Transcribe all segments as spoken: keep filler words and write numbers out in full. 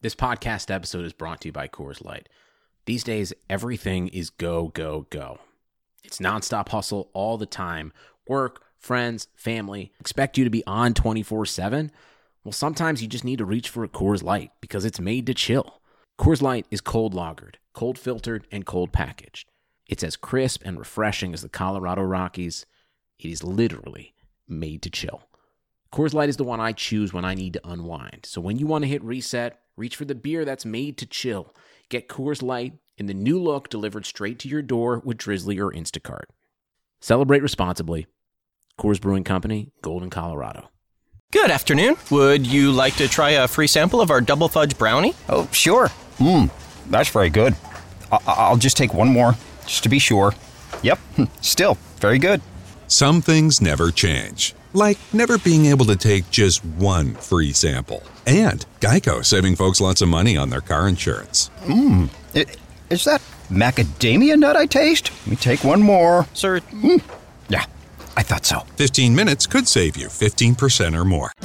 This podcast episode is brought to you by Coors Light. These days, everything is go, go, go. It's nonstop hustle all the time. Work, friends, family, expect you to be on twenty-four seven. Well, sometimes you just need to reach for a Coors Light because it's made to chill. Coors Light is cold lagered, cold filtered, and cold packaged. It's as crisp and refreshing as the Colorado Rockies. It is literally made to chill. Coors Light is the one I choose when I need to unwind. So when you want to hit reset, reach for the beer that's made to chill. Get Coors Light in the new look delivered straight to your door with Drizzly or Instacart. Celebrate responsibly. Coors Brewing Company, Golden, Colorado. Good afternoon. Would you like to try a free sample of our double fudge brownie? Oh, sure. Mmm, that's very good. I- I'll just take one more, just to be sure. Yep, still very good. Some things never change, like never being able to take just one free sample. And Geico saving folks lots of money on their car insurance. Mmm, is that macadamia nut I taste? Let me take one more. Sir? Mm. Yeah, I thought so. fifteen minutes could save you fifteen percent or more.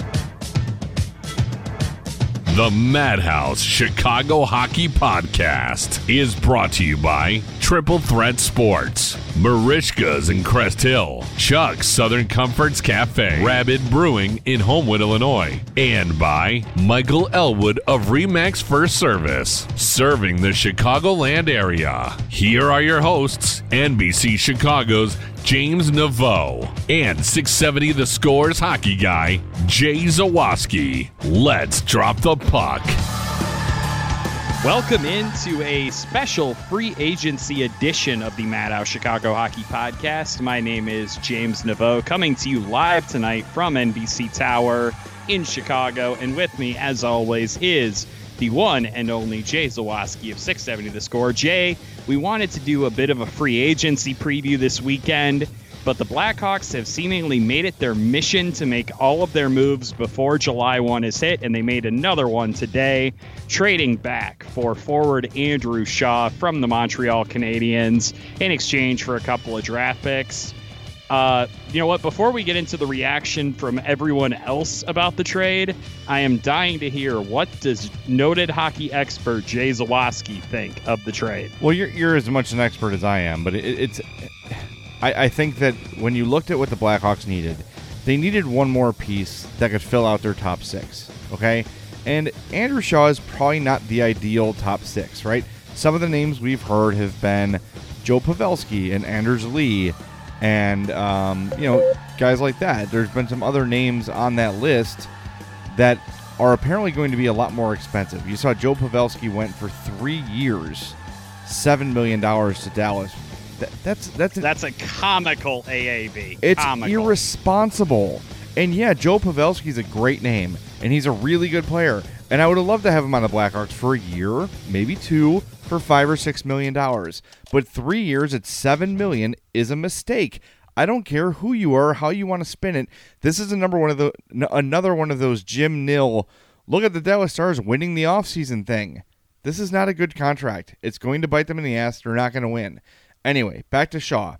The Madhouse Chicago Hockey Podcast is brought to you by Triple Threat Sports, Marishka's in Crest Hill, Chuck's Southern Comforts Cafe, Rabbit Brewing in Homewood, Illinois, and by Michael Elwood of Remax First Service, serving the Chicagoland area. Here are your hosts, N B C Chicago's James Naveau and six seventy The Score's hockey guy, Jay Zawaski. Let's drop the puck. Welcome into a special free agency edition of the Madhouse Chicago Hockey Podcast. My name is James Naveau, coming to you live tonight from N B C Tower in Chicago. And with me, as always, is the one and only Jay Zawaski of six seventy The Score. Jay, we wanted to do a bit of a free agency preview this weekend, but the Blackhawks have seemingly made it their mission to make all of their moves before July first is hit, and they made another one today, trading back for forward Andrew Shaw from the Montreal Canadiens in exchange for a couple of draft picks. Uh, you know what? Before we get into the reaction from everyone else about the trade, I am dying to hear, what does noted hockey expert Jay Zawaski think of the trade? Well, you're you're as much an expert as I am, but it, it's. I, I think that when you looked at what the Blackhawks needed, they needed one more piece that could fill out their top six. Okay, and Andrew Shaw is probably not the ideal top six, right? Some of the names we've heard have been Joe Pavelski and Anders Lee. And, um, you know, guys like that. There's been some other names on that list that are apparently going to be a lot more expensive. You saw Joe Pavelski went for three years, seven million dollars to Dallas. That, that's that's That's a comical A A V. It's comical. irresponsible. And, yeah, Joe Pavelski's a great name, and he's a really good player. And I would have loved to have him on the Blackhawks for a year, maybe two, for five or six million dollars. But three years at seven million is a mistake. I don't care who you are, how you want to spin it. This is a number one of the another one of those Jim Nill, look at the Dallas Stars winning the offseason thing. This is not a good contract. It's going to bite them in the ass. They're not going to win. Anyway, back to Shaw.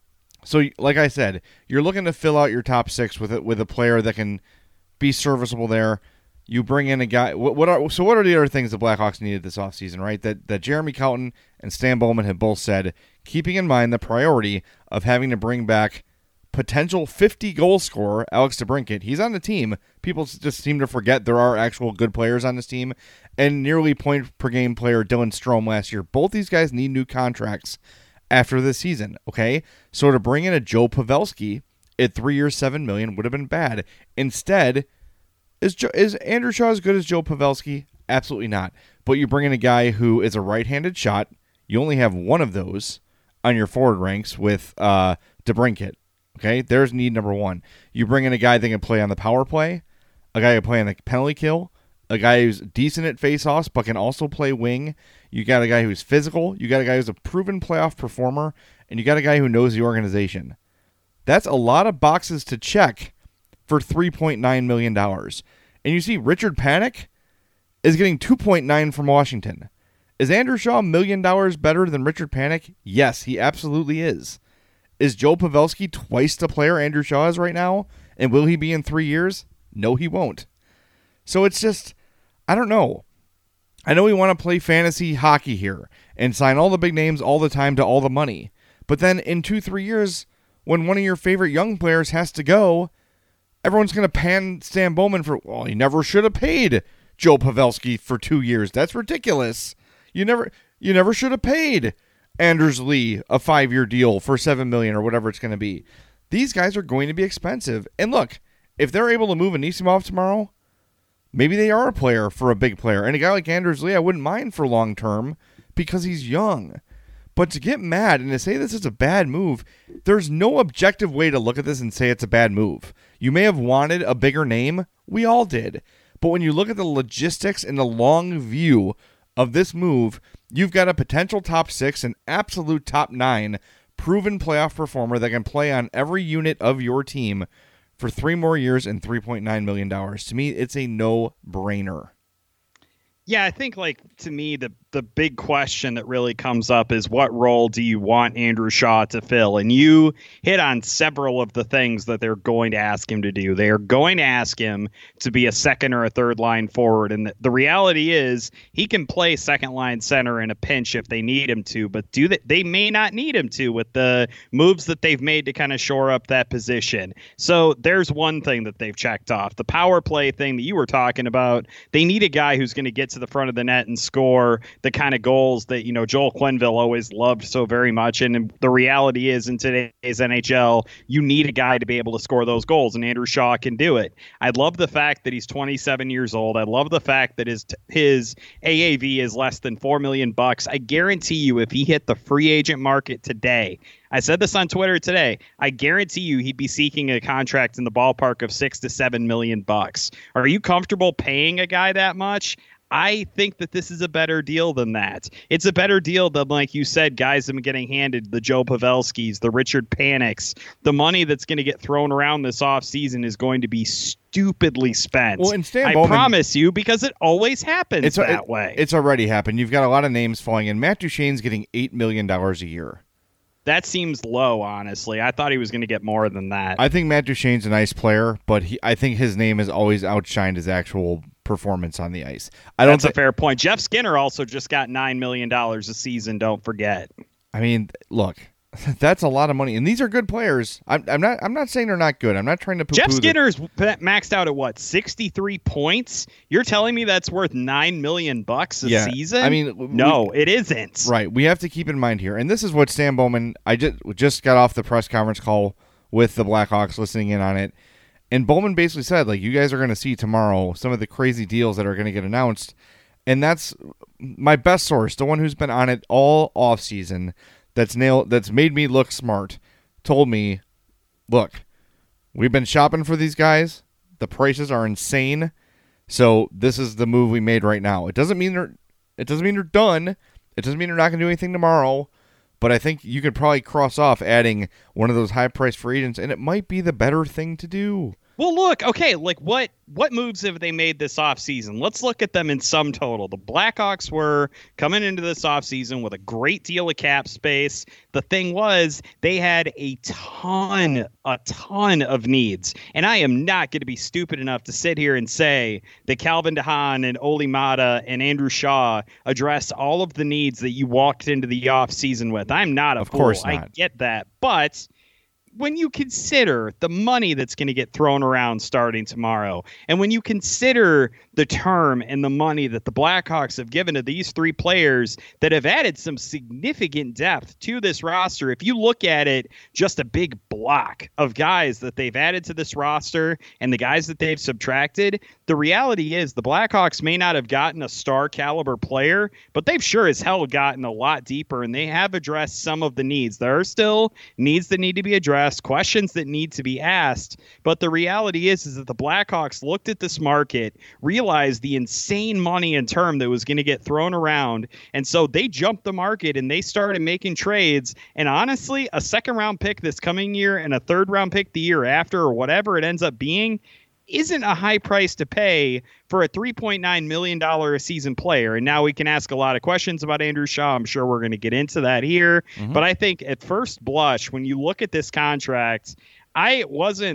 So, like I said, you're looking to fill out your top six with a, with a player that can be serviceable there. You bring in a guy. What, what are so? What are the other things the Blackhawks needed this offseason, right? That that Jeremy Colton and Stan Bowman have both said, keeping in mind the priority of having to bring back potential fifty goal scorer Alex DeBrincat. He's on the team. People just seem to forget there are actual good players on this team, and nearly point per game player Dylan Strome last year. Both these guys need new contracts after this season. Okay, so to bring in a Joe Pavelski at three years, seven million would have been bad. Instead. Is Joe, is Andrew Shaw as good as Joe Pavelski? Absolutely not. But you bring in a guy who is a right-handed shot. You only have one of those on your forward ranks with uh, DeBrincat. Okay, there's need number one. You bring in a guy that can play on the power play, a guy who can play on the penalty kill, a guy who's decent at face-offs but can also play wing. You got a guy who's physical. You got a guy who's a proven playoff performer, and you got a guy who knows the organization. That's a lot of boxes to check for three point nine million dollars. And you see Richard Panik is getting two point nine from Washington. Is Andrew Shaw a million dollars better than Richard Panik? Yes, he absolutely is. Is Joe Pavelski twice the player Andrew Shaw is right now? And will he be in three years? No, he won't. So it's just, I don't know. I know we want to play fantasy hockey here and sign all the big names all the time to all the money. But then in two, three years, when one of your favorite young players has to go, everyone's going to pan Stan Bowman for, well, he never should have paid Joe Pavelski for two years. That's ridiculous. You never you never should have paid Anders Lee a five-year deal for seven million dollars or whatever it's going to be. These guys are going to be expensive. And look, if they're able to move Anisimov tomorrow, maybe they are a player for a big player. And a guy like Anders Lee, I wouldn't mind for long term because he's young. But to get mad and to say this is a bad move, there's no objective way to look at this and say it's a bad move. You may have wanted a bigger name. We all did. But when you look at the logistics and the long view of this move, you've got a potential top six, an absolute top nine, proven playoff performer that can play on every unit of your team for three more years and three point nine million dollars. To me, it's a no-brainer. Yeah, I think, like, to me, the the big question that really comes up is what role do you want Andrew Shaw to fill? And you hit on several of the things that they're going to ask him to do. They are going to ask him to be a second or a third line forward. And the, the reality is he can play second line center in a pinch if they need him to, but do they, they may not need him to with the moves that they've made to kind of shore up that position. So there's one thing that they've checked off. The power play thing that you were talking about, they need a guy who's going to get to the front of the net and score the kind of goals that, you know, Joel Quenneville always loved so very much. And the reality is in today's N H L, you need a guy to be able to score those goals, and Andrew Shaw can do it. I love the fact that he's twenty-seven years old. I love the fact that his his A A V is less than four million bucks. I guarantee you, if he hit the free agent market today, I said this on Twitter today, I guarantee you he'd be seeking a contract in the ballpark of six to seven million bucks. Are you comfortable paying a guy that much? I think that this is a better deal than that. It's a better deal than, like you said, guys have been getting handed the Joe Pavelskis, the Richard Panics. The money that's going to get thrown around this offseason is going to be stupidly spent. Well, and Stan I Bowman, promise you, because it always happens it's, that it, way. It's already happened. You've got a lot of names falling in. Matt Duchene's getting eight million dollars a year. That seems low, honestly. I thought he was going to get more than that. I think Matt Duchene's a nice player, but he, I think his name has always outshined his actual performance on the ice. I don't That's th- a fair point. Jeff Skinner also just got nine million dollars a season, don't forget. I mean, look, that's a lot of money, and these are good players. I'm, I'm not. I'm not saying they're not good. I'm not trying to. Jeff Skinner's maxed out at what, sixty-three points? You're telling me that's worth nine million bucks a yeah, season? I mean, no, we, it isn't. Right. We have to keep in mind here, and this is what Stan Bowman. I just just got off the press conference call with the Blackhawks, listening in on it, and Bowman basically said, like, you guys are going to see tomorrow some of the crazy deals that are going to get announced, and that's my best source, the one who's been on it all off season. That's nailed. That's made me look smart. Told me, look, we've been shopping for these guys. The prices are insane. So this is the move we made right now. It doesn't mean they're. It doesn't mean they're done. It doesn't mean they're not going to do anything tomorrow. But I think you could probably cross off adding one of those high-priced free agents, and it might be the better thing to do. Well, look, okay, like what what moves have they made this offseason? Let's look at them in sum total. The Blackhawks were coming into this offseason with a great deal of cap space. The thing was, they had a ton, a ton of needs. And I am not going to be stupid enough to sit here and say that Calvin DeHaan and Oli Mata and Andrew Shaw addressed all of the needs that you walked into the offseason with. I'm not a of fool. course not. I get that. But when you consider the money that's going to get thrown around starting tomorrow, and when you consider the term and the money that the Blackhawks have given to these three players that have added some significant depth to this roster, if you look at it, just a big block of guys that they've added to this roster and the guys that they've subtracted, the reality is the Blackhawks may not have gotten a star caliber player, but they've sure as hell gotten a lot deeper, and they have addressed some of the needs. There are still needs that need to be addressed, questions that need to be asked, but the reality is, is that the Blackhawks looked at this market, realized the insane money and term that was going to get thrown around, and so they jumped the market and they started making trades. And honestly, a second round pick this coming year and a third round pick the year after, or whatever it ends up being, isn't a high price to pay for a three point nine million dollars a season player. And now we can ask a lot of questions about Andrew Shaw. I'm sure we're going to get into that here. Mm-hmm. But I think at first blush, when you look at this contract, I wasn't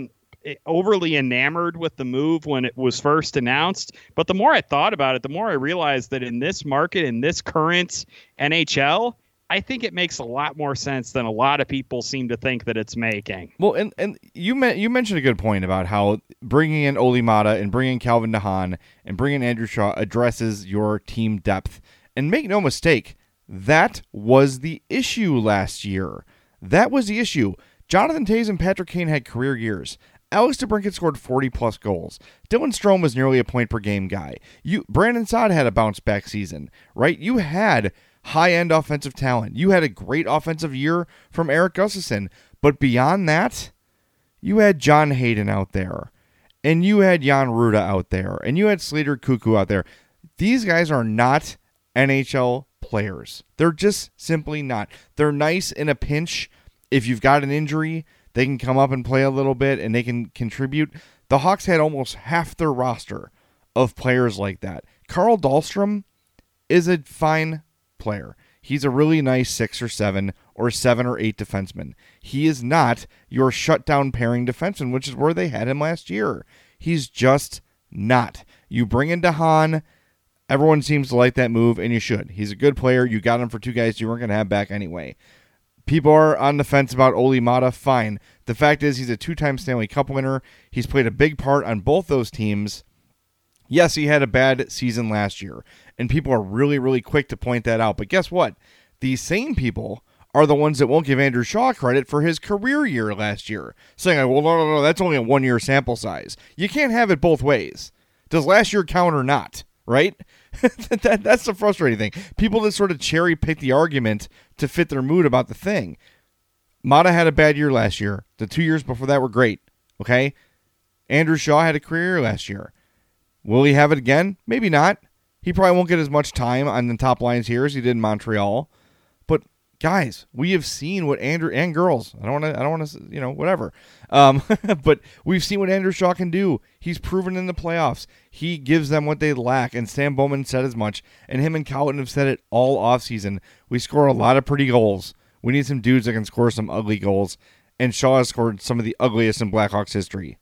overly enamored with the move when it was first announced. But the more I thought about it, the more I realized that in this market, in this current N H L, I think it makes a lot more sense than a lot of people seem to think that it's making. Well, and, and you me- you mentioned a good point about how bringing in Olli Maatta and bringing Calvin DeHaan and bringing Andrew Shaw addresses your team depth. And make no mistake, that was the issue last year. That was the issue. Jonathan Toews and Patrick Kane had career years. Alex DeBrincat scored forty-plus goals. Dylan Strome was nearly a point-per-game guy. You, Brandon Saad had a bounce-back season, right? You had high-end offensive talent. You had a great offensive year from Erik Gustafsson. But beyond that, you had John Hayden out there. And you had Jan Ruda out there. And you had Slater Cuckoo out there. These guys are not N H L players. They're just simply not. They're nice in a pinch. If you've got an injury, they can come up and play a little bit and they can contribute. The Hawks had almost half their roster of players like that. Carl Dahlstrom is a fine player. He's a really nice six or seven or seven or eight defenseman. He is not your shutdown pairing defenseman, which is where they had him last year. He's just not. You bring in DeHaan. Everyone seems to like that move, and you should. He's a good player. You got him for two guys you weren't going to have back anyway. People are on the fence about Olli Maatta. Fine. The fact is he's a two-time Stanley Cup winner. He's played a big part on both those teams. Yes, he had a bad season last year, and people are really, really quick to point that out. But guess what? These same people are the ones that won't give Andrew Shaw credit for his career year last year, saying, well, no, no, no, that's only a one-year sample size. You can't have it both ways. Does last year count or not? Right? that, that's the frustrating thing. People that sort of cherry pick the argument to fit their mood about the thing. Maatta had a bad year last year. The two years before that were great. Okay? Andrew Shaw had a career year last year. Will he have it again? Maybe not. He probably won't get as much time on the top lines here as he did in Montreal. But guys, we have seen what Andrew and girls. I don't want to. I don't want to. You know, whatever. Um, but we've seen what Andrew Shaw can do. He's proven in the playoffs. He gives them what they lack. And Sam Bowman said as much. And him and Colton have said it all offseason. We score a lot of pretty goals. We need some dudes that can score some ugly goals. And Shaw has scored some of the ugliest in Blackhawks history.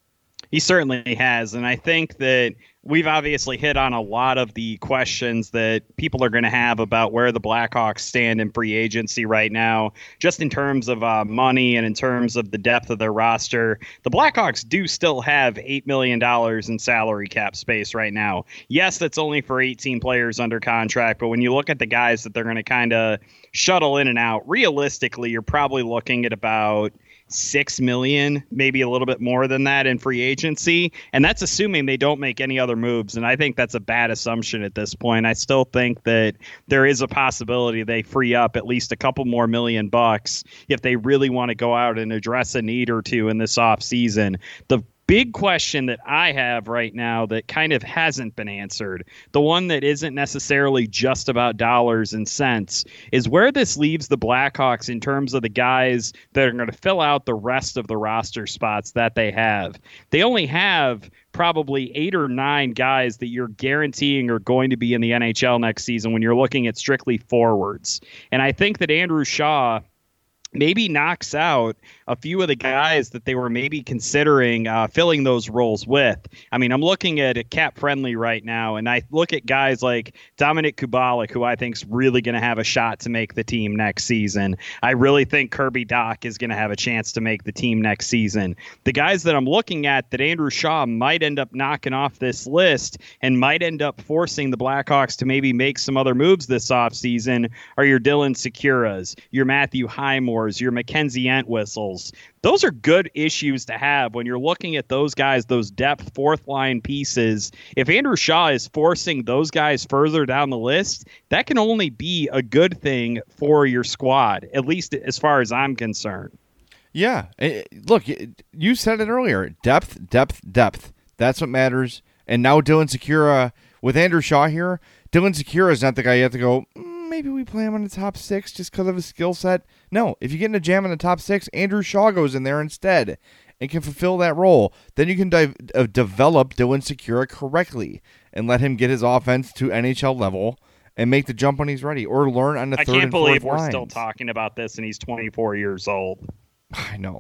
He certainly has. And I think that we've obviously hit on a lot of the questions that people are going to have about where the Blackhawks stand in free agency right now, just in terms of uh, money and in terms of the depth of their roster. The Blackhawks do still have eight million dollars in salary cap space right now. Yes, that's only for eighteen players under contract, but when you look at the guys that they're going to kind of shuttle in and out, realistically, you're probably looking at about six million, maybe a little bit more than that in free agency. And that's assuming they don't make any other moves. And I think that's a bad assumption at this point. I still think that there is a possibility they free up at least a couple more million bucks if they really want to go out and address a need or two in this off season. The big question that I have right now that kind of hasn't been answered, the one that isn't necessarily just about dollars and cents, is where this leaves the Blackhawks in terms of the guys that are going to fill out the rest of the roster spots that they have. They only have probably eight or nine guys that you're guaranteeing are going to be in the N H L next season when you're looking at strictly forwards. And I think that Andrew Shaw maybe knocks out a few of the guys that they were maybe considering uh, filling those roles with. I mean, I'm looking at a cap friendly right now, and I look at guys like Dominik Kubalik, who I think is really going to have a shot to make the team next season. I really think Kirby Dach is going to have a chance to make the team next season. The guys that I'm looking at that Andrew Shaw might end up knocking off this list and might end up forcing the Blackhawks to maybe make some other moves this offseason are your Dylan Securas, your Matthew Highmore, your Mackenzie Entwistles. Those are good issues to have when you're looking at those guys, those depth fourth line pieces. If Andrew Shaw is forcing those guys further down the list, that can only be a good thing for your squad, at least as far as I'm concerned. Yeah. Look, you said it earlier. Depth, depth, depth. That's what matters. And now Dylan Sekura, with Andrew Shaw here, Dylan Sekura is not the guy you have to go, mm, maybe we play him in the top six just because of his skill set. No, if you get in a jam in the top six, Andrew Shaw goes in there instead and can fulfill that role. Then you can dive, uh, develop Dylan Sekura correctly and let him get his offense to N H L level and make the jump when he's ready, or learn on the I third and fourth lines. I can't believe we're still talking about this and he's twenty-four years old. I know.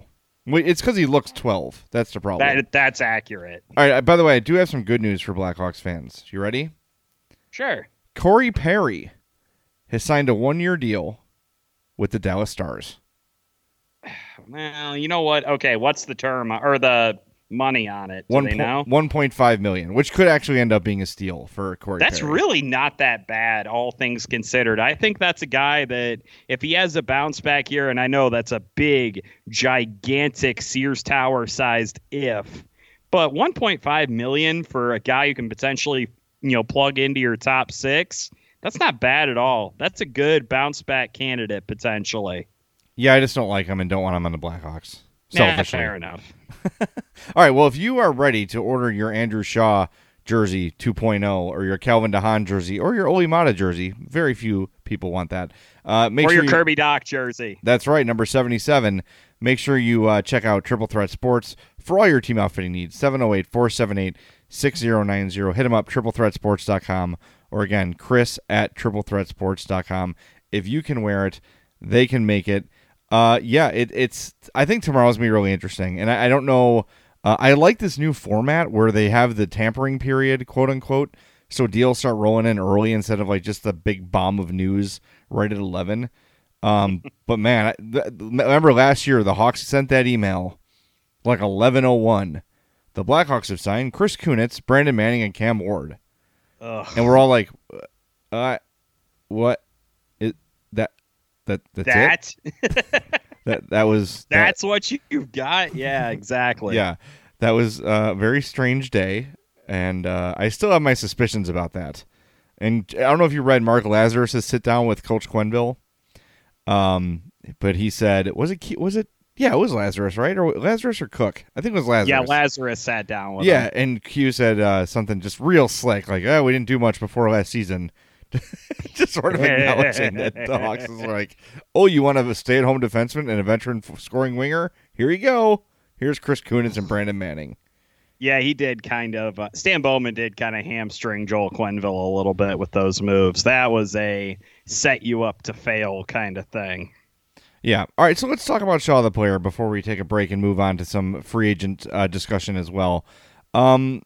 Wait, it's because he looks twelve. That's the problem. That that's accurate. All right. By the way, I do have some good news for Blackhawks fans. You ready? Sure. Corey Perry has signed a one-year deal with the Dallas Stars. Well, you know what? Okay, what's the term or the money on it? Do One they po- know? one point five million, which could actually end up being a steal for Corey. That's Perry. really not that bad, all things considered. I think that's a guy that if he has a bounce back year, and I know that's a big, gigantic Sears Tower sized if, but one point five million for a guy who can potentially, you know, plug into your top six, that's not bad at all. That's a good bounce back candidate potentially. Yeah, I just don't like him and don't want him on the Blackhawks. Nah, Selfishly. fair enough. All right, well, if you are ready to order your Andrew Shaw jersey two point oh or your Calvin DeHaan jersey or your Oli Mata jersey, very few people want that. Uh, make or sure your you, Kirby Doc jersey. That's right, number seventy-seven. Make sure you uh, check out Triple Threat Sports for all your team outfitting needs. seven oh eight, four seven eight, six oh nine oh. Hit them up, triple threat sports dot com. Or again, Chris at triple threat sports dot com. If you can wear it, they can make it. Uh, yeah, it, it's. I think tomorrow's gonna be really interesting, and I, I don't know. Uh, I like this new format where they have the tampering period, quote unquote, so deals start rolling in early instead of like just the big bomb of news right at eleven. Um, but man, I, th- remember last year the Hawks sent that email like eleven oh one. The Blackhawks have signed Chris Kunitz, Brandon Manning, and Cam Ward, Ugh. and we're all like, uh, what? Is that? That that's That? it. That that was that, That's what you've got? Yeah, exactly. yeah. That was a very strange day, and uh, I still have my suspicions about that. And I don't know if you read Mark Lazarus' sit down with Coach Quenneville, um, but he said, was it was it yeah it was Lazarus, right? Or Lazarus or Cook? I think it was Lazarus. Yeah, Lazarus sat down with Yeah, him. and Q said uh, something just real slick, like, "Oh, we didn't do much before last season." Just sort of acknowledging that the Hawks is like, oh, you want to have a stay-at-home defenseman and a veteran f- scoring winger? Here you go. Here's Chris Kunitz and Brandon Manning. Yeah, he did kind of. Uh, Stan Bowman did kind of hamstring Joel Quenneville a little bit with those moves. That was a set you up to fail kind of thing. Yeah. All right, so let's talk about Shaw the player before we take a break and move on to some free agent uh, discussion as well. Um,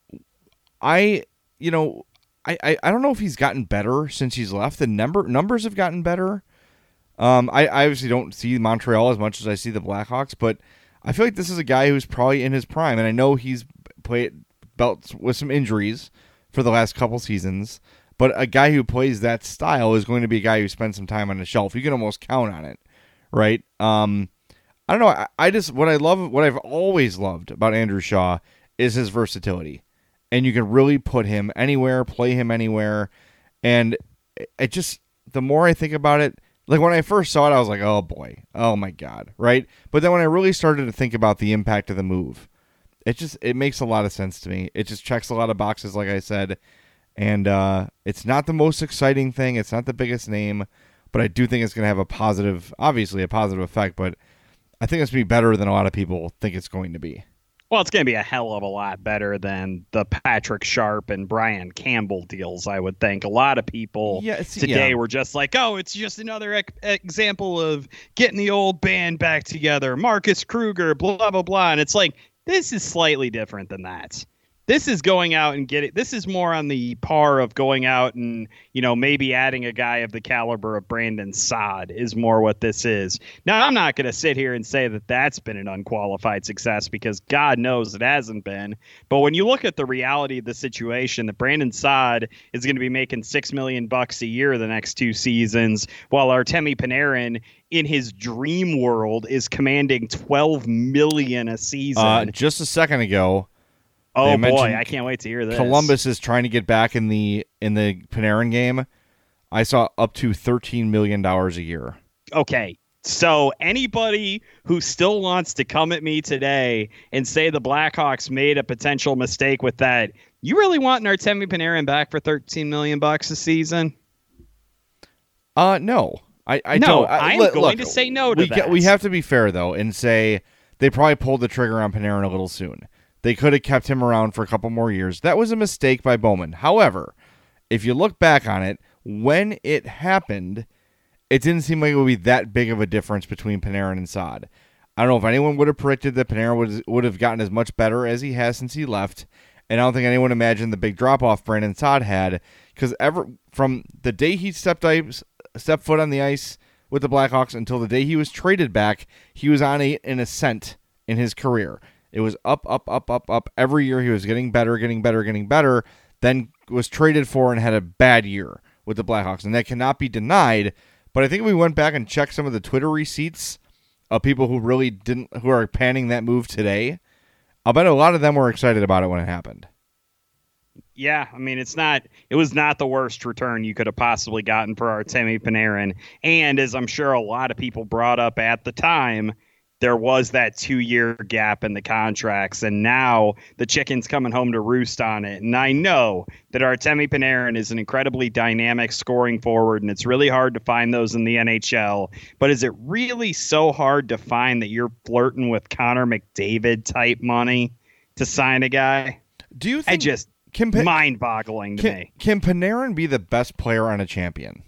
I, you know... I, I, I don't know if he's gotten better since he's left. The number numbers have gotten better. Um, I, I obviously don't see Montreal as much as I see the Blackhawks, but I feel like this is a guy who's probably in his prime, and I know he's played belts with some injuries for the last couple seasons, but a guy who plays that style is going to be a guy who spends some time on the shelf. You can almost count on it, right? Um, I don't know. I, I just what I love, what I've always loved about Andrew Shaw is his versatility. And you can really put him anywhere, play him anywhere. And it just, the more I think about it, like when I first saw it, I was like, oh boy, oh my God, right? But then when I really started to think about the impact of the move, it just, it makes a lot of sense to me. It just checks a lot of boxes, like I said. And uh, it's not the most exciting thing. It's not the biggest name, but I do think it's going to have a positive, obviously a positive effect, but I think it's going to be better than a lot of people think it's going to be. Well, it's going to be a hell of a lot better than the Patrick Sharp and Brian Campbell deals, I would think. A lot of people yeah, see, today yeah. were just like, oh, it's just another ec- example of getting the old band back together. Marcus Kruger, blah, blah, blah. And it's like, this is slightly different than that. This is going out and getting, this is more on the par of going out and, you know, maybe adding a guy of the caliber of Brandon Saad is more what this is. Now, I'm not going to sit here and say that that's been an unqualified success because God knows it hasn't been. But when you look at the reality of the situation, that Brandon Saad is going to be making six million bucks a year the next two seasons, while Artemi Panarin in his dream world is commanding twelve million a season. Uh, just a second ago, Oh They boy, mentioned I can't wait to hear this. Columbus is trying to get back in the in the Panarin game. I saw up to thirteen million dollars a year. Okay, so anybody who still wants to come at me today and say the Blackhawks made a potential mistake with that, you really want Artemi Panarin back for thirteen million bucks a season? Uh, no. I, I No, don't. I, I'm look, going look, to say no to we, that. We have to be fair, though, and say they probably pulled the trigger on Panarin a little soon. They could have kept him around for a couple more years. That was a mistake by Bowman. However, if you look back on it, when it happened, it didn't seem like it would be that big of a difference between Panarin and Saad. I don't know if anyone would have predicted that Panarin would would have gotten as much better as he has since he left, and I don't think anyone imagined the big drop off Brandon Saad had, because ever from the day he stepped ice, stepped foot on the ice with the Blackhawks until the day he was traded back, he was on a, an ascent in his career. It was up, up, up, up, up. Every year he was getting better, getting better, getting better, then was traded for and had a bad year with the Blackhawks, and that cannot be denied. But I think if we went back and checked some of the Twitter receipts of people who really didn't, who are panning that move today, I'll bet a lot of them were excited about it when it happened. Yeah, I mean, it's not, it was not the worst return you could have possibly gotten for Artemi Panarin. And as I'm sure a lot of people brought up at the time, there was that two-year gap in the contracts, and now the chicken's coming home to roost on it. And I know that Artemi Panarin is an incredibly dynamic scoring forward, and it's really hard to find those in the N H L. But is it really so hard to find that you're flirting with Connor McDavid-type money to sign a guy? Do you think... I just... Can pa- mind-boggling to can, me. Can Panarin be the best player on a champion?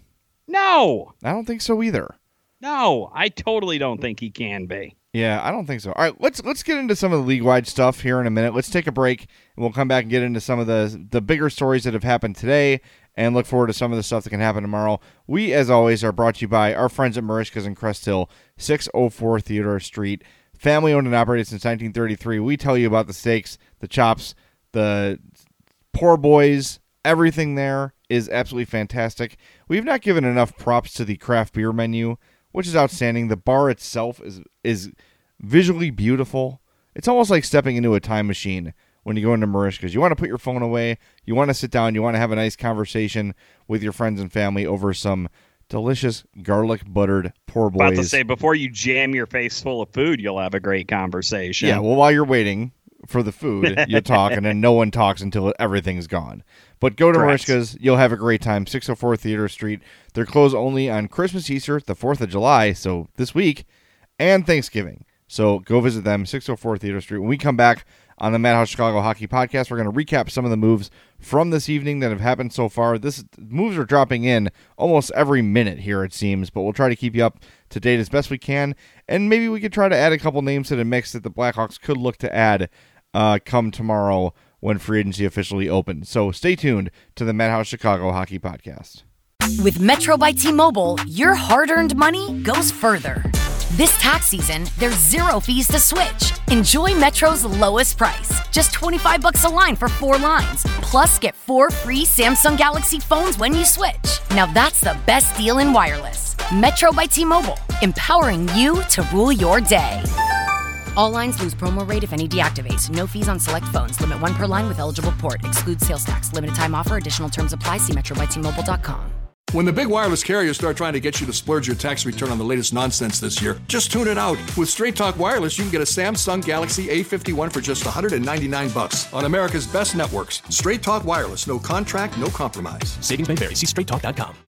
No. I don't think so either. No, I totally don't think he can be. Yeah, I don't think so. All right, let's let's get into some of the league-wide stuff here in a minute. Let's take a break, and we'll come back and get into some of the the bigger stories that have happened today, and look forward to some of the stuff that can happen tomorrow. We, as always, are brought to you by our friends at Marishka's in Crest Hill, six oh four Theodore Street. Family-owned and operated since nineteen thirty-three. We tell you about the steaks, the chops, the poor boys. Everything there is absolutely fantastic. We've not given enough props to the craft beer menu, which is outstanding. The bar itself is is visually beautiful. It's almost like stepping into a time machine when you go into Marishka's. You want to put your phone away. You want to sit down. You want to have a nice conversation with your friends and family over some delicious garlic buttered poor boys. About to say, before you jam your face full of food, you'll have a great conversation. Yeah, well, while you're waiting for the food, you talk, and then no one talks until everything's gone. But go to Correct. Marishka's. You'll have a great time. six oh four Theodore Street. They're closed only on Christmas, Easter, the fourth of July, so this week, and Thanksgiving. So go visit them, six oh four Theodore Street. When we come back on the Madhouse Chicago Hockey Podcast, we're going to recap some of the moves from this evening that have happened so far. This moves are dropping in almost every minute here, it seems, but we'll try to keep you up to date as best we can, and maybe we could try to add a couple names to the mix that the Blackhawks could look to add uh, come tomorrow when free agency officially opens. So stay tuned to the Madhouse Chicago Hockey Podcast. With Metro by T-Mobile, your hard-earned money goes further. This tax season, there's zero fees to switch. Enjoy Metro's lowest price, just twenty-five bucks a line for four lines. Plus, get four free Samsung Galaxy phones when you switch. Now that's the best deal in wireless. Metro by T-Mobile, empowering you to rule your day. All lines lose promo rate if any deactivates. No fees on select phones. Limit one per line with eligible port. Excludes sales tax. Limited time offer. Additional terms apply. See metro by T Mobile dot com. When the big wireless carriers start trying to get you to splurge your tax return on the latest nonsense this year, just tune it out. With Straight Talk Wireless, you can get a Samsung Galaxy A fifty-one for just one hundred ninety-nine bucks on America's best networks. Straight Talk Wireless. No contract, no compromise. Savings may vary. See straight talk dot com.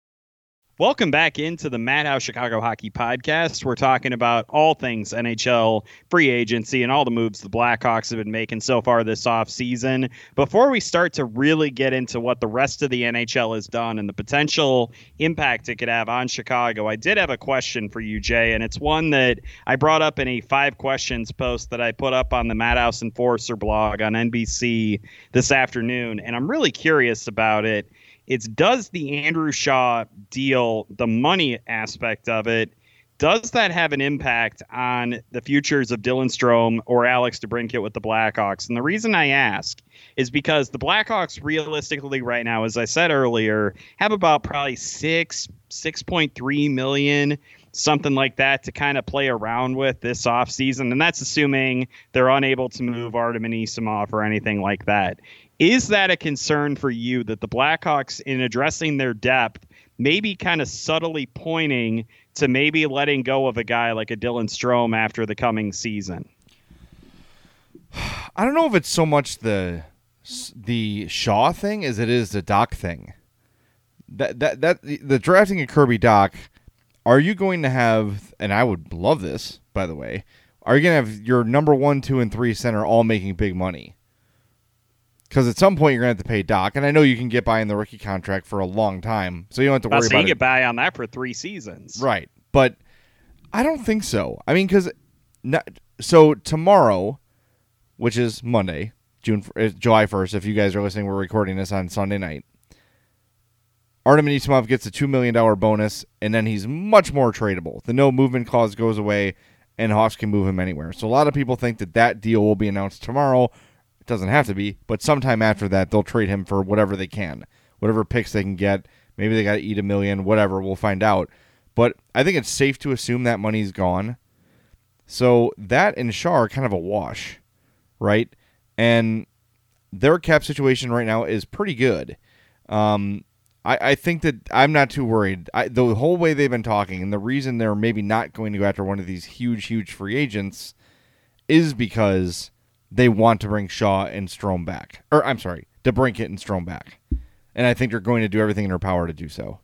Welcome back into the Madhouse Chicago Hockey Podcast. We're talking about all things N H L, free agency, and all the moves the Blackhawks have been making so far this offseason. Before we start to really get into what the rest of the N H L has done and the potential impact it could have on Chicago, I did have a question for you, Jay, and it's one that I brought up in a five questions post that I put up on the Madhouse Enforcer blog on N B C this afternoon, and I'm really curious about it. It's, does the Andrew Shaw deal, the money aspect of it, does that have an impact on the futures of Dylan Strome or Alex DeBrincat with the Blackhawks? And the reason I ask is because the Blackhawks realistically right now, as I said earlier, have about probably six, six point three million, something like that, to kind of play around with this offseason. And that's assuming they're unable to move Artem Anisimov or anything like that. Is that a concern for you that the Blackhawks, in addressing their depth, maybe kind of subtly pointing to maybe letting go of a guy like a Dylan Strome after the coming season? I don't know if it's so much the the Shaw thing as it is the Doc thing. That that that the drafting of Kirby Doc. Are you going to have? And I would love this, by the way. Are you going to have your number one, two, and three center all making big money? Because at some point you're going to have to pay Doc, and I know you can get by in the rookie contract for a long time, so you don't have to worry so about you it. get by on that for three seasons, right? But I don't think so. I mean, because not, so tomorrow, which is Monday, June uh, July first, if you guys are listening, we're recording this on Sunday night. Artem Anisimov gets a two million dollars bonus, and then he's much more tradable. The no movement clause goes away, and Hawks can move him anywhere. So a lot of people think that that deal will be announced tomorrow. It doesn't have to be, but sometime after that, they'll trade him for whatever they can, whatever picks they can get. Maybe they got to eat a million, whatever. We'll find out. But I think it's safe to assume that money's gone. So that and Shaw are kind of a wash, right? And their cap situation right now is pretty good. Um, I, I think that I'm not too worried. I, the whole way they've been talking, and the reason they're maybe not going to go after one of these huge, huge free agents is because they want to bring Shaw and Strome back. Or, I'm sorry, DeBrincat and Strome back. And I think they're going to do everything in their power to do so.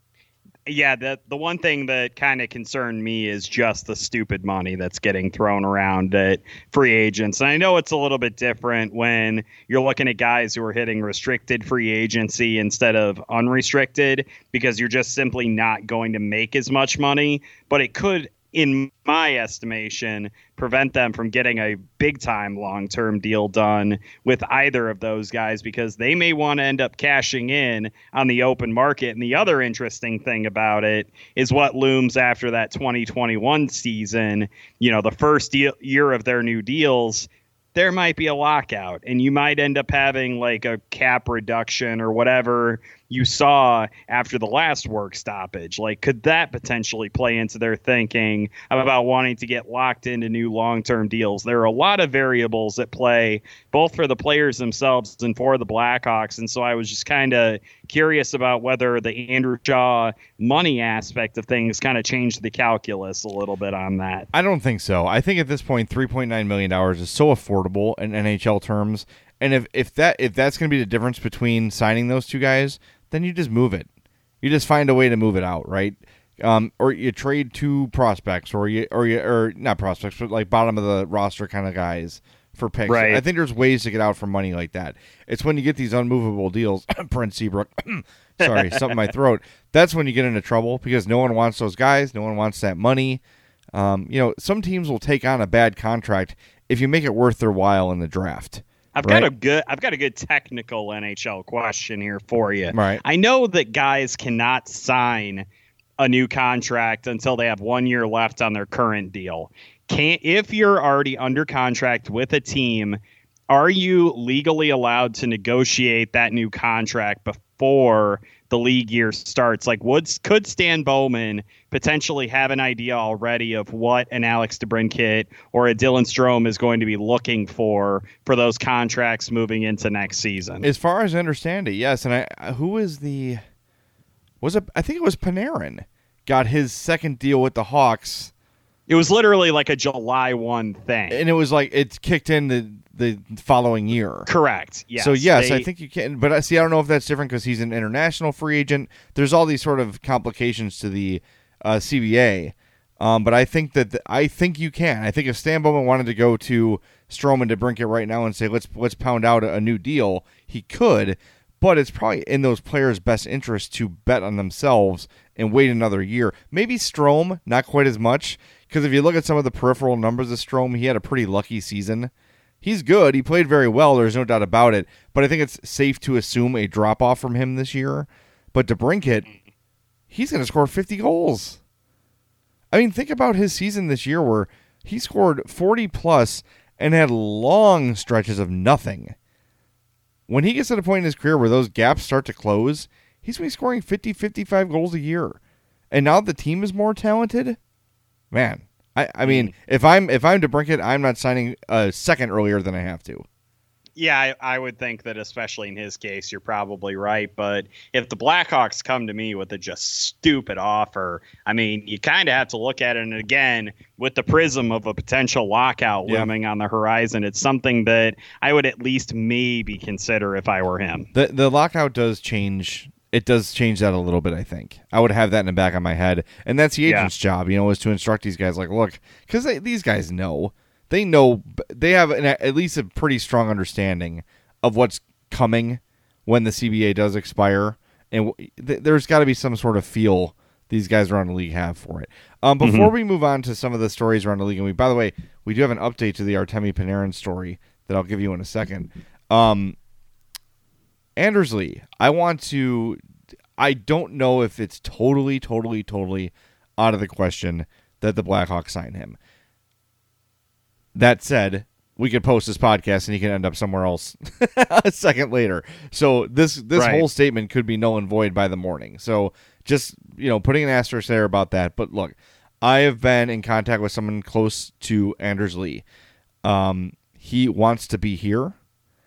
Yeah, the the one thing that kind of concerned me is just the stupid money that's getting thrown around at free agents. And I know it's a little bit different when you're looking at guys who are hitting restricted free agency instead of unrestricted, because you're just simply not going to make as much money. But it could, in my estimation, prevent them from getting a big-time long-term deal done with either of those guys, because they may want to end up cashing in on the open market. And the other interesting thing about it is what looms after that twenty twenty-one season. You know, the first deal, year of their new deals, there might be a lockout, and you might end up having like a cap reduction or whatever you saw after the last work stoppage. Like, could that potentially play into their thinking about wanting to get locked into new long-term deals? There are a lot of variables at play, both for the players themselves and for the Blackhawks. And so I was just kind of curious about whether the Andrew Shaw money aspect of things kind of changed the calculus a little bit on that. I don't think so. I think at this point, three point nine million dollars is so affordable in N H L terms. And if, if that if that's going to be the difference between signing those two guys, then you just move it. You just find a way to move it out, right? Um, or you trade two prospects, or you or you or not prospects, but like bottom of the roster kind of guys for picks. Right. I think there's ways to get out for money like that. It's when you get these unmovable deals, Brent Seabrook. Sorry, something in my throat. That's when you get into trouble, because no one wants those guys. No one wants that money. Um, you know, some teams will take on a bad contract if you make it worth their while in the draft. I've right? got a good I've got a good technical N H L question here for you. Right. I know that guys cannot sign a new contract until they have one year left on their current deal. Can if you're already under contract with a team, are you legally allowed to negotiate that new contract before the league year starts? Like, would could Stan Bowman potentially have an idea already of what an Alex DeBrincat or a Dylan Strome is going to be looking for for those contracts moving into next season? As far as I understand it, yes. And I, who is the was it? I think it was Panarin got his second deal with the Hawks. It was literally like a July first thing, and it was like it kicked in the the following year. Correct. Yes. So yes, they, I think you can. But I see. I don't know if that's different because he's an international free agent. There's all these sort of complications to the uh, C B A. Um, but I think that the, I think you can. I think if Stan Bowman wanted to go to Strome and DeBrincat right now and say let's let's pound out a, a new deal, he could. But it's probably in those players' best interest to bet on themselves and wait another year. Maybe Strome, not quite as much, because if you look at some of the peripheral numbers of Strome, he had a pretty lucky season. He's good. He played very well. There's no doubt about it. But I think it's safe to assume a drop-off from him this year. But DeBrincat, he's going to score fifty goals. I mean, think about his season this year where he scored forty plus and had long stretches of nothing. When he gets to the point in his career where those gaps start to close, he's going to be scoring fifty, fifty-five goals a year. And now the team is more talented, man. I, I mean, if I'm if I'm DeBrincat, I'm not signing a second earlier than I have to. Yeah, I, I would think that especially in his case, you're probably right. But if the Blackhawks come to me with a just stupid offer, I mean, you kind of have to look at it. And again, with the prism of a potential lockout yeah. looming on the horizon, it's something that I would at least maybe consider if I were him. The the lockout does change. It does change that a little bit, I think. I would have that in the back of my head. And that's the agent's yeah. job, you know, is to instruct these guys like, look, because these guys know. They know, they have an, at least a pretty strong understanding of what's coming when the C B A does expire. And th- there's got to be some sort of feel these guys around the league have for it. Um, before mm-hmm. we move on to some of the stories around the league, and we, by the way, we do have an update to the Artemi Panarin story that I'll give you in a second. Um, Anders Lee, I want to, I don't know if it's totally, totally, totally out of the question that the Blackhawks sign him. That said, we could post this podcast and he can end up somewhere else a second later. So this this right. whole statement could be null and void by the morning. So just, you know, putting an asterisk there about that. But look, I have been in contact with someone close to Anders Lee. Um, he wants to be here,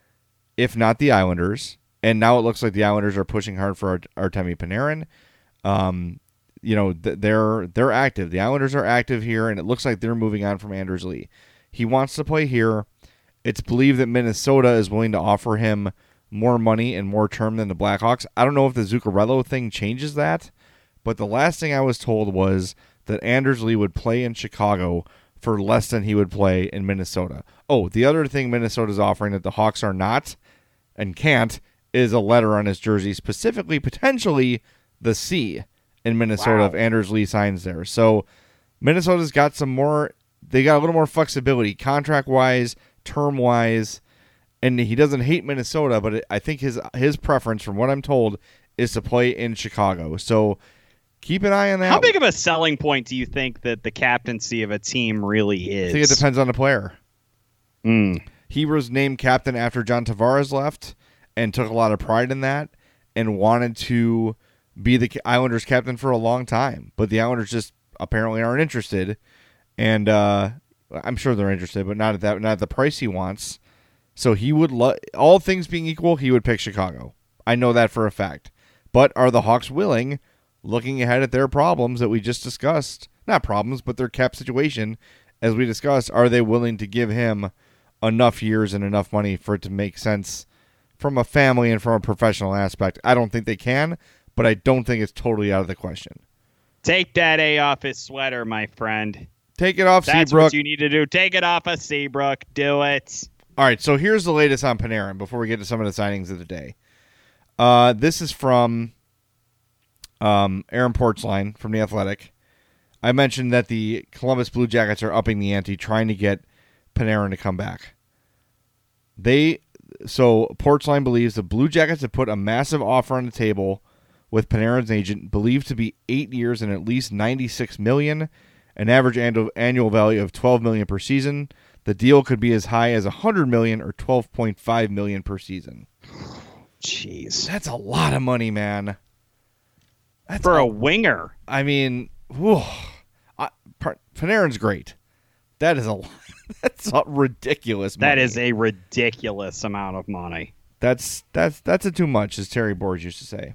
if not the Islanders. And now it looks like the Islanders are pushing hard for Art- Artemi Panarin. Um, you know, th- they're they're active. The Islanders are active here, and it looks like they're moving on from Anders Lee. He wants to play here. It's believed that Minnesota is willing to offer him more money and more term than the Blackhawks. I don't know if the Zuccarello thing changes that, but the last thing I was told was that Anders Lee would play in Chicago for less than he would play in Minnesota. Oh, the other thing Minnesota's offering that the Hawks are not and can't is a letter on his jersey, specifically, potentially, the C in Minnesota wow. if Anders Lee signs there. So Minnesota's got some more... They got a little more flexibility, contract-wise, term-wise, and he doesn't hate Minnesota, but it, I think his his preference, from what I'm told, is to play in Chicago. So keep an eye on that. How big of a selling point do you think that the captaincy of a team really is? I think it depends on the player. Mm. He was named captain after John Tavares left and took a lot of pride in that and wanted to be the Islanders captain for a long time, but the Islanders just apparently aren't interested. And uh, I'm sure they're interested, but not at that, not at the price he wants. So he would, lo- all things being equal, he would pick Chicago. I know that for a fact. But are the Hawks willing, looking ahead at their problems that we just discussed, not problems, but their cap situation, as we discussed, are they willing to give him enough years and enough money for it to make sense from a family and from a professional aspect? I don't think they can, but I don't think it's totally out of the question. Take that A off his sweater, my friend. Take it off, That's Seabrook. what you need to do. Take it off of Seabrook. Do it. All right, so here's the latest on Panarin before we get to some of the signings of the day. Uh, this is from um, Aaron Portzline from The Athletic. I mentioned that the Columbus Blue Jackets are upping the ante, trying to get Panarin to come back. They So Portzline believes the Blue Jackets have put a massive offer on the table with Panarin's agent, believed to be eight years and at least ninety-six million dollars. An average annual value of twelve million dollars per season. The deal could be as high as one hundred million dollars or twelve point five million dollars per season. Jeez. That's a lot of money, man. That's For a, a winger. I mean, whew, I, Panarin's great. That is a that's a ridiculous money. That is a ridiculous amount of money. That's that's that's a too much, as Terry Boers used to say.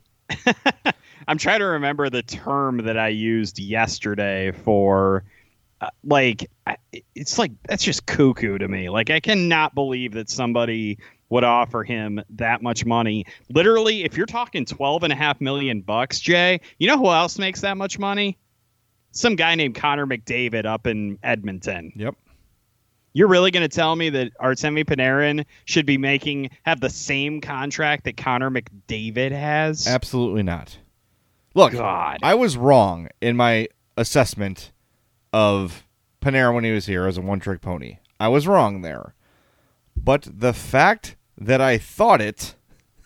I'm trying to remember the term that I used yesterday for, uh, like, it's like, that's just cuckoo to me. Like, I cannot believe that somebody would offer him that much money. Literally, if you're talking twelve and a half million bucks, Jay, you know who else makes that much money? Some guy named Connor McDavid up in Edmonton. Yep. You're really going to tell me that Artemi Panarin should be making, have the same contract that Connor McDavid has? Absolutely not. Look, God. I was wrong in my assessment of Panarin when he was here as a one-trick pony. I was wrong there. But the fact that I thought it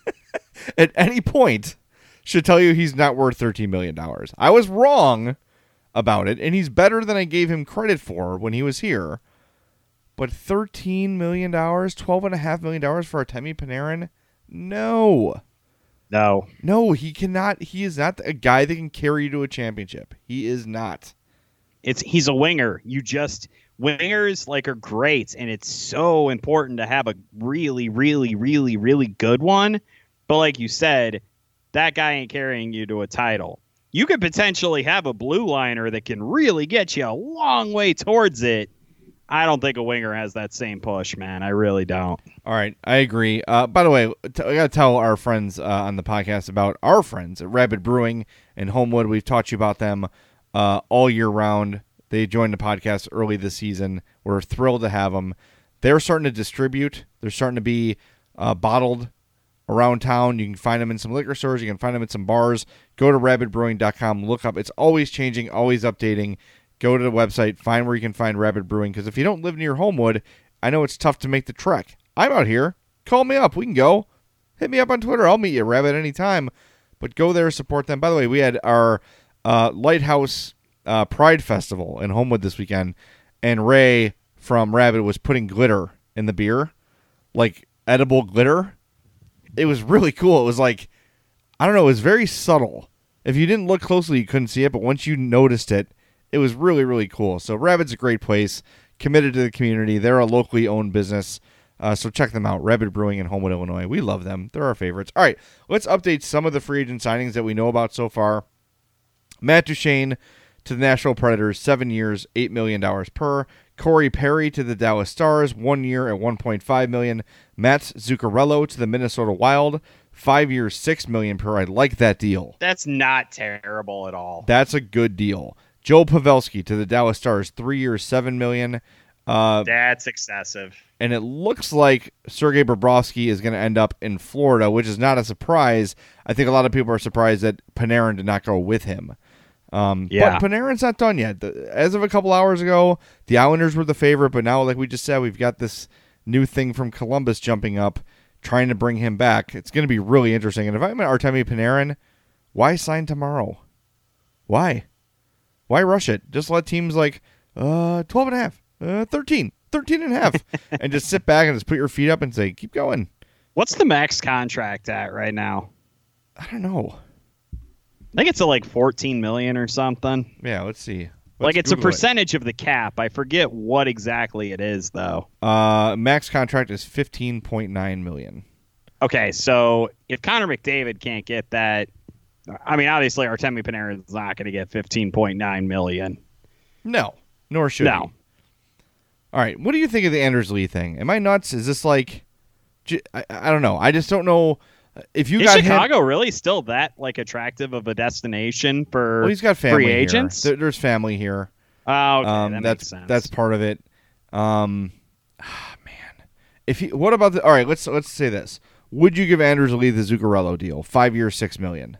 at any point should tell you he's not worth thirteen million dollars. I was wrong about it, and he's better than I gave him credit for when he was here. But thirteen million dollars, twelve point five million dollars for Artemi Panarin? No. No. No, he cannot. He is not a guy that can carry you to a championship. He is not. It's He's a winger. You just... Wingers, like, are great, and it's so important to have a really, really, really, really good one. But like you said, that guy ain't carrying you to a title. You could potentially have a blue liner that can really get you a long way towards it. I don't think a winger has that same push, man. I really don't. All right, I agree. Uh, by the way, t- I got to tell our friends uh, on the podcast about our friends at Rapid Brewing and Homewood. We've taught you about them uh, all year round. They joined the podcast early this season. We're thrilled to have them. They're starting to distribute. They're starting to be uh, bottled around town. You can find them in some liquor stores. You can find them at some bars. Go to rabid brewing dot com. Look up. It's always changing, always updating. Go to the website. Find where you can find Rabid Brewing. Because if you don't live near Homewood, I know it's tough to make the trek. I'm out here. Call me up. We can go. Hit me up on Twitter. I'll meet you, Rabid, anytime. But go there, support them. By the way, we had our uh, Lighthouse uh, Pride Festival in Homewood this weekend. And Ray from Rabid was putting glitter in the beer. Like edible glitter. It was really cool. It was like, I don't know, it was very subtle. If you didn't look closely, you couldn't see it, but once you noticed it, it was really, really cool. So Rabid's a great place, committed to the community. They're a locally owned business, uh, so check them out. Rabid Brewing in Homewood, Illinois. We love them. They're our favorites. All right, let's update some of the free agent signings that we know about so far. Matt Duchene to the Nashville Predators, seven years, eight million dollars per. Corey Perry to the Dallas Stars, one year at one point five million dollars. Matt Zuccarello to the Minnesota Wild, five years, six million dollars per. I like that deal. That's not terrible at all. That's a good deal. Joe Pavelski to the Dallas Stars, three years, seven million dollars. Uh, That's excessive. And it looks like Sergei Bobrovsky is going to end up in Florida, which is not a surprise. I think a lot of people are surprised that Panarin did not go with him. Um, yeah. But Panarin's not done yet. The, as of a couple hours ago, the Islanders were the favorite, but now, like we just said, we've got this new thing from Columbus jumping up, trying to bring him back. It's going to be really interesting. And if I'm Artemi Panarin, why sign tomorrow? Why? Why rush it? Just let teams like uh, twelve and a half, uh, thirteen, thirteen and a half, and just sit back and just put your feet up and say, keep going. What's the max contract at right now? I don't know. I think it's at like fourteen million dollars or something. Yeah, let's see. Let's like it's Google a percentage it. of the cap. I forget what exactly it is, though. Uh, max contract is fifteen point nine million dollars. Okay, so if Connor McDavid can't get that, I mean, obviously Artemi Panarin is not going to get fifteen point nine million dollars. No, nor should no. he. All right, what do you think of the Anders Lee thing? Am I nuts? Is this like, I, I don't know. I just don't know. If you is got Chicago him, really still that like attractive of a destination for well, he's got family free here. agents? There, there's family here. Oh, okay, um, that that's makes sense. that's part of it. Um, ah, man, if he, what about the? All right, let's let's say this. Would you give Anders Lee the Zuccarello deal? Five years, six million.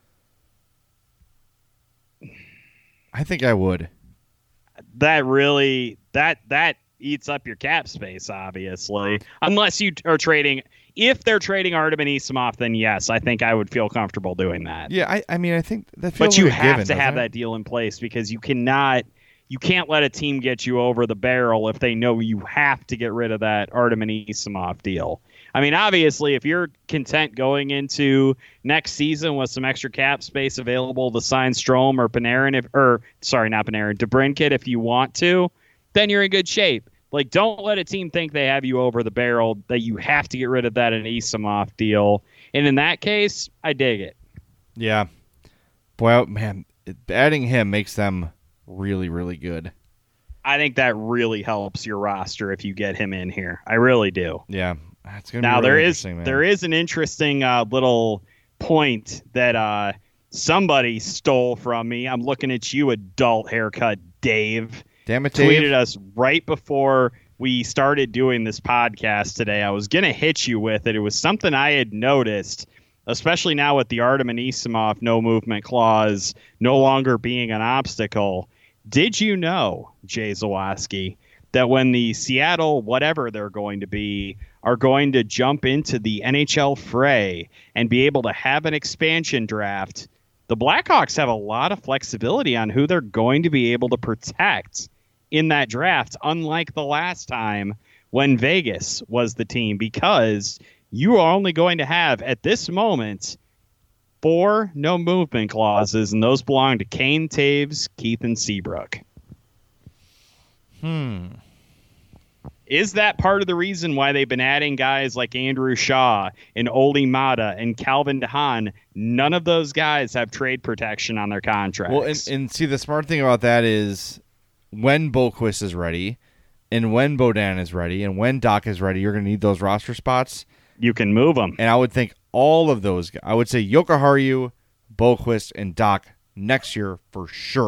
I think I would. That really that that eats up your cap space, obviously. Unless you are trading. If they're trading Artem Anisimov, then yes, I think I would feel comfortable doing that. Yeah, I, I mean, I think that feels But you like a have given, to have doesn't it? that deal in place because you cannot, you can't let a team get you over the barrel if they know you have to get rid of that Artem Anisimov deal. I mean, obviously, if you're content going into next season with some extra cap space available to sign Strome or Panarin, if, or sorry, not Panarin, DeBrincat if you want to, then you're in good shape. Like, don't let a team think they have you over the barrel, that you have to get rid of that Anisimov deal. And in that case, I dig it. Yeah. Boy, oh, man, adding him makes them really, really good. I think that really helps your roster if you get him in here. I really do. Yeah. It's gonna be now, really there is interesting, man. there is an interesting uh, little point that uh, somebody stole from me. I'm looking at you, adult haircut Dave. Damn it, Dave. Tweeted us right before we started doing this podcast today. I was going to hit you with it. It was something I had noticed, especially now with the Artem Anisimov no movement clause no longer being an obstacle. Did you know, Jay Zawaski, that when the Seattle, whatever they're going to be, are going to jump into the N H L fray and be able to have an expansion draft, the Blackhawks have a lot of flexibility on who they're going to be able to protect in that draft, unlike the last time when Vegas was the team, because you are only going to have, at this moment, four no movement clauses, and those belong to Kane, Taves, Keith, and Seabrook. Hmm. Is that part of the reason why they've been adding guys like Andrew Shaw and Oli Mata and Calvin DeHaan? None of those guys have trade protection on their contracts. Well, and, and see, the smart thing about that is when Boquist is ready and when Bodan is ready and when Doc is ready, you're going to need those roster spots. You can move them. And I would think all of those, I would say Jokiharju, Boquist, and Doc next year for sure.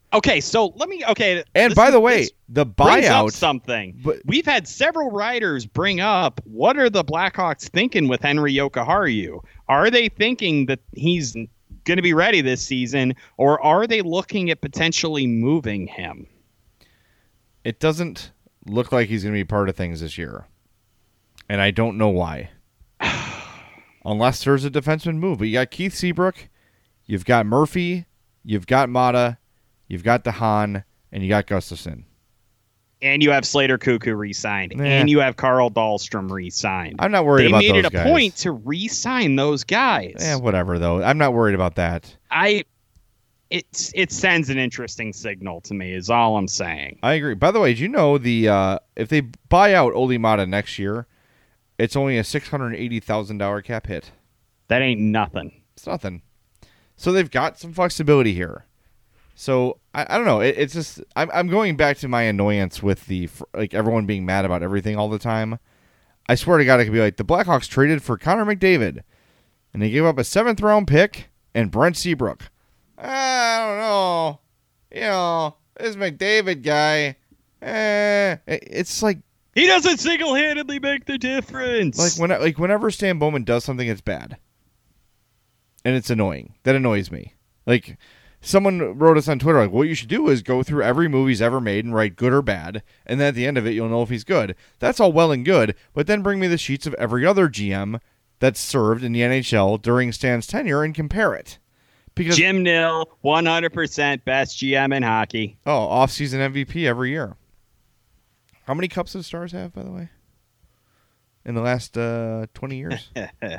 Okay, so let me. Okay, And this by is- the way, this the brings up buyout. something. but- We've had several writers bring up what are the Blackhawks thinking with Henry Jokiharju? Are they thinking that he's going to be ready this season, or are they looking at potentially moving him? It doesn't look like he's going to be part of things this year. And I don't know why. Unless there's a defenseman move. But you got Keith Seabrook, you've got Murphy, you've got Mata, you've got DeHaan, and you got Gustafsson. And you have Slater Cuckoo re-signed, Nah. and you have Carl Dahlstrom re-signed. I'm not worried they about made those it a guys. point to re-sign those guys. Eh, whatever, though. I'm not worried about that. I, it's it sends an interesting signal to me. Is all I'm saying. I agree. By the way, did you know the uh, if they buy out Oli Mata next year, it's only a six hundred eighty thousand dollars cap hit. That ain't nothing. It's nothing. So they've got some flexibility here. So I, I don't know. It, it's just I'm I'm going back to my annoyance with the like everyone being mad about everything all the time. I swear to God, it could be like the Blackhawks traded for Connor McDavid, and they gave up a seventh round pick and Brent Seabrook. I don't know. You know, this McDavid guy. Eh, it's like He doesn't single-handedly make the difference. like when like whenever Stan Bowman does something, it's bad, and it's annoying. That annoys me. Like someone wrote us on Twitter, like, what you should do is go through every movie he's ever made and write good or bad, and then at the end of it, you'll know if he's good. That's all well and good, but then bring me the sheets of every other G M that's served in the N H L during Stan's tenure and compare it. Because Jim Nill, one hundred percent best G M in hockey. oh, off-season M V P every year. How many cups does Stars have, by the way? In the last uh, twenty years?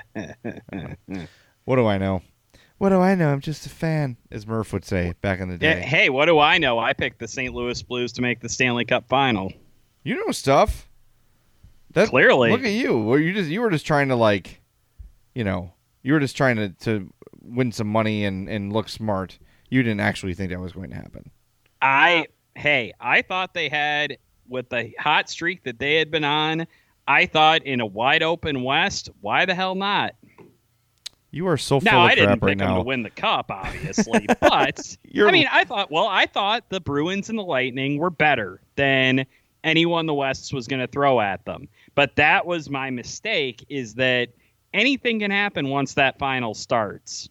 What do I know? What do I know? I'm just a fan, as Murph would say back in the Yeah, day. hey, what do I know? I picked the Saint Louis Blues to make the Stanley Cup final. You know stuff. That, Clearly. Look at you. Well, you just you were just trying to like, you know, you were just trying to, to win some money and, and look smart. You didn't actually think that was going to happen. I hey, I thought they had with the hot streak that they had been on. I thought in a wide open West, why the hell not? You are so full Now, of I didn't crap right pick them now. to win the cup, obviously, but You're- I mean, I thought, well, I thought the Bruins and the Lightning were better than anyone the West was going to throw at them. But that was my mistake, is that anything can happen once that final starts.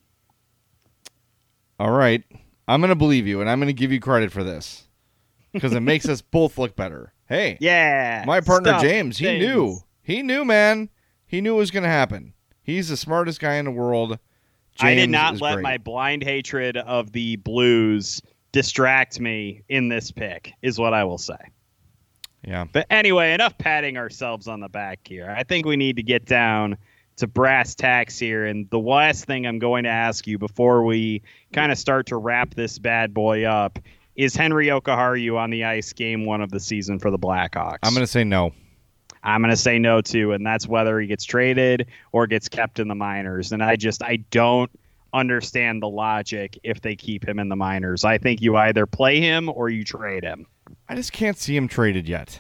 All right. I'm going to believe you, and I'm going to give you credit for this because it makes us both look better. Hey, Yeah. my partner stuff, James, he things. knew. He knew, man. He knew it was going to happen. He's the smartest guy in the world. I did James not is let great. my blind hatred of the Blues distract me in this pick, is what I will say. Yeah. But anyway, enough patting ourselves on the back here. I think we need to get down to brass tacks here. And the last thing I'm going to ask you before we kind of start to wrap this bad boy up is Henry Jokiharju on the ice game one of the season for the Blackhawks? I'm going to say no. I'm going to say no, too, and that's whether he gets traded or gets kept in the minors. And I just, I don't understand the logic if they keep him in the minors. I think you either play him or you trade him. I just can't see him traded yet.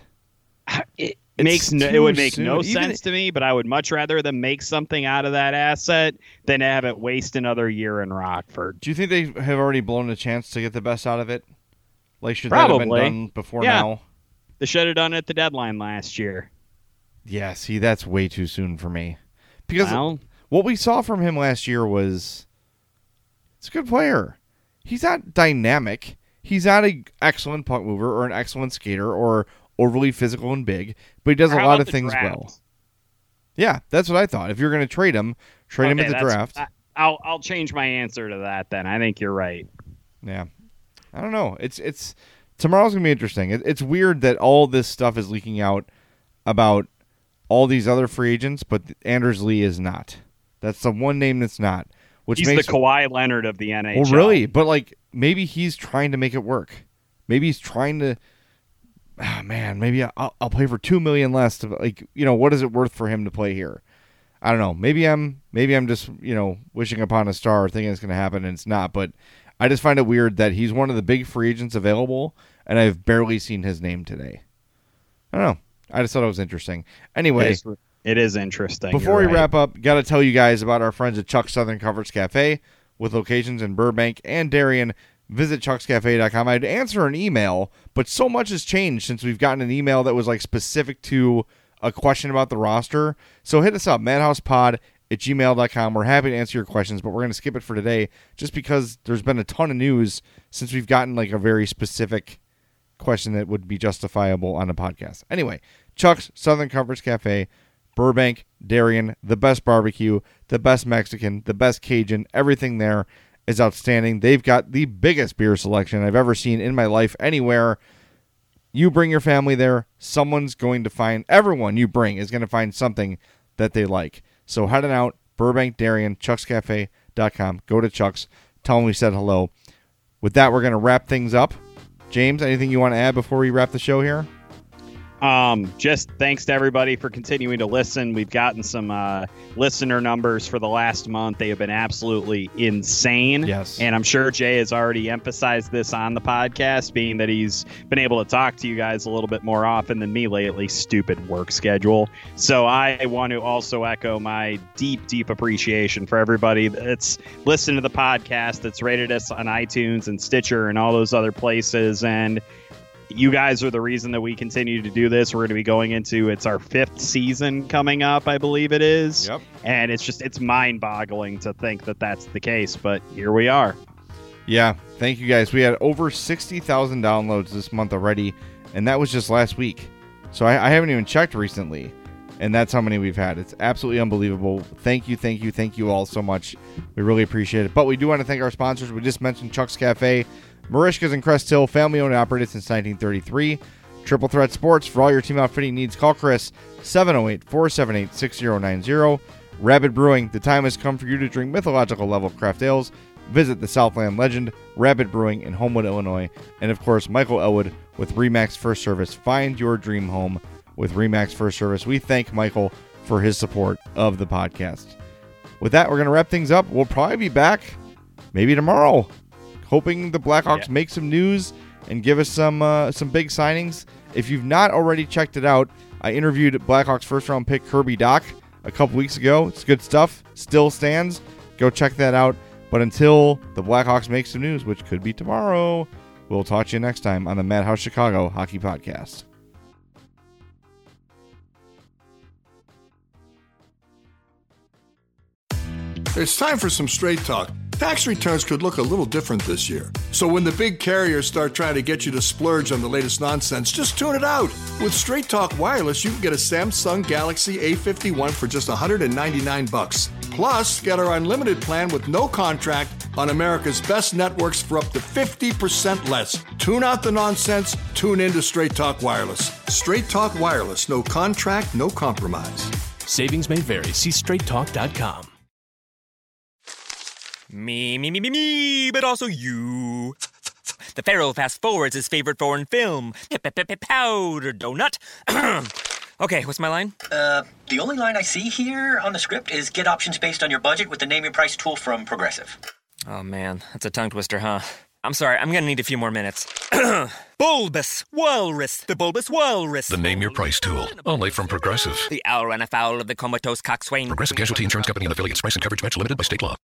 It It's makes no, it too would make soon. no Even- sense to me, but I would much rather them make something out of that asset than have it waste another year in Rockford. Do you think they have already blown a chance to get the best out of it? Like, should that have Probably. been done before Yeah. now? They should have done it at the deadline last year. Yeah, see, that's way too soon for me. Because Well, what we saw from him last year was it's a good player. He's not dynamic. He's not an excellent puck mover or an excellent skater or overly physical and big, but he does how a lot about of the things draft? well. Yeah, that's what I thought. If you're going to trade him, trade him Okay, at the that's- draft. I, I'll I'll change my answer to that then. I think you're right. Yeah, I don't know. It's it's tomorrow's gonna be interesting. It, it's weird that all this stuff is leaking out about all these other free agents, but Anders Lee is not. That's the one name that's not. Which He's makes the Kawhi Leonard of the N H L. well, really, but like maybe he's trying to make it work. Maybe he's trying to. Ah, man, maybe I'll, I'll play for two million less. To like, you know, what is it worth for him to play here? I don't know. Maybe I'm maybe I'm just, you know, wishing upon a star, thinking it's going to happen, and it's not. But I just find it weird that he's one of the big free agents available, and I've barely seen his name today. I don't know. I just thought it was interesting. Anyway, It is, it is interesting. before You're we right. wrap up, got to tell you guys about our friends at Chuck's Southern Comforts Cafe with locations in Burbank and Darien. visit chucks cafe dot com. I'd answer an email, but so much has changed since we've gotten an email that was like specific to a question about the roster. So hit us up, madhousepod at gmail dot com. We're happy to answer your questions, but we're going to skip it for today just because there's been a ton of news since we've gotten like a very specific question that would be justifiable on a podcast. Anyway, Chuck's Southern Comforts Cafe, Burbank, Darien, the best barbecue, the best Mexican, the best Cajun, everything there is outstanding. They've got the biggest beer selection I've ever seen in my life anywhere. You bring your family there, someone's going to find, everyone you bring is going to find something that they like. So head on out, Burbank, Darien, chucks cafe dot com. Go to Chuck's, tell them we said hello. With that, we're going to wrap things up. James, anything you want to add before we wrap the show here? Um, just thanks to everybody for continuing to listen. We've gotten some uh, listener numbers for the last month. They have been absolutely insane. Yes. And I'm sure Jay has already emphasized this on the podcast, being that he's been able to talk to you guys a little bit more often than me lately. Stupid work schedule. So I want to also echo my deep, deep appreciation for everybody that's listened to the podcast, that's rated us on iTunes and Stitcher and all those other places. And you guys are the reason that we continue to do this. We're going to be going into, it's our fifth season coming up, I believe it is. Yep. And it's just, it's mind boggling to think that that's the case, but here we are. Yeah. Thank you guys. We had over sixty thousand downloads this month already, and that was just last week. So I, I haven't even checked recently, and that's how many we've had. It's absolutely unbelievable. Thank you, thank you, thank you all so much. We really appreciate it. But we do want to thank our sponsors. We just mentioned Chuck's Cafe, Marishka's in Crest Hill, family owned and operated since nineteen thirty-three. Triple Threat Sports, for all your team outfitting needs, call Chris, seven oh eight, four seven eight, six oh nine oh. Rabid Brewing, the time has come for you to drink mythological level craft ales. Visit the Southland legend, Rabid Brewing in Homewood, Illinois. And of course, Michael Elwood with RE/MAX First Service. Find your dream home with RE/MAX First Service. We thank Michael for his support of the podcast. With that, we're going to wrap things up. We'll probably be back maybe tomorrow, hoping the Blackhawks Yeah. make some news and give us some uh, some big signings. If you've not already checked it out, I interviewed Blackhawks first round pick Kirby Dach a couple weeks ago. It's good stuff. Still stands. Go check that out. But until the Blackhawks make some news, which could be tomorrow, we'll talk to you next time on the Madhouse Chicago Hockey Podcast. It's time for some straight talk. Tax returns could look a little different this year. So when the big carriers start trying to get you to splurge on the latest nonsense, just tune it out. With Straight Talk Wireless, you can get a Samsung Galaxy A fifty-one for just one hundred ninety-nine bucks. Plus, get our unlimited plan with no contract on America's best networks for up to fifty percent less. Tune out the nonsense, tune into Straight Talk Wireless. Straight Talk Wireless, no contract, no compromise. Savings may vary. See straight talk dot com. Me, me, me, me, me, but also you. The Pharaoh fast forwards his favorite foreign film, Powder Donut. Okay, what's my line? Uh, the only line I see here on the script is get options based on your budget with the Name Your Price tool from Progressive. Oh man, that's a tongue twister, huh? I'm sorry, I'm gonna need a few more minutes. Bulbous Walrus, the Bulbous Walrus. The Name Your Price tool, only from Progressive. The owl ran afoul of the comatose coxswain. Progressive Casualty Insurance Company and affiliates. Price and coverage match limited by state law.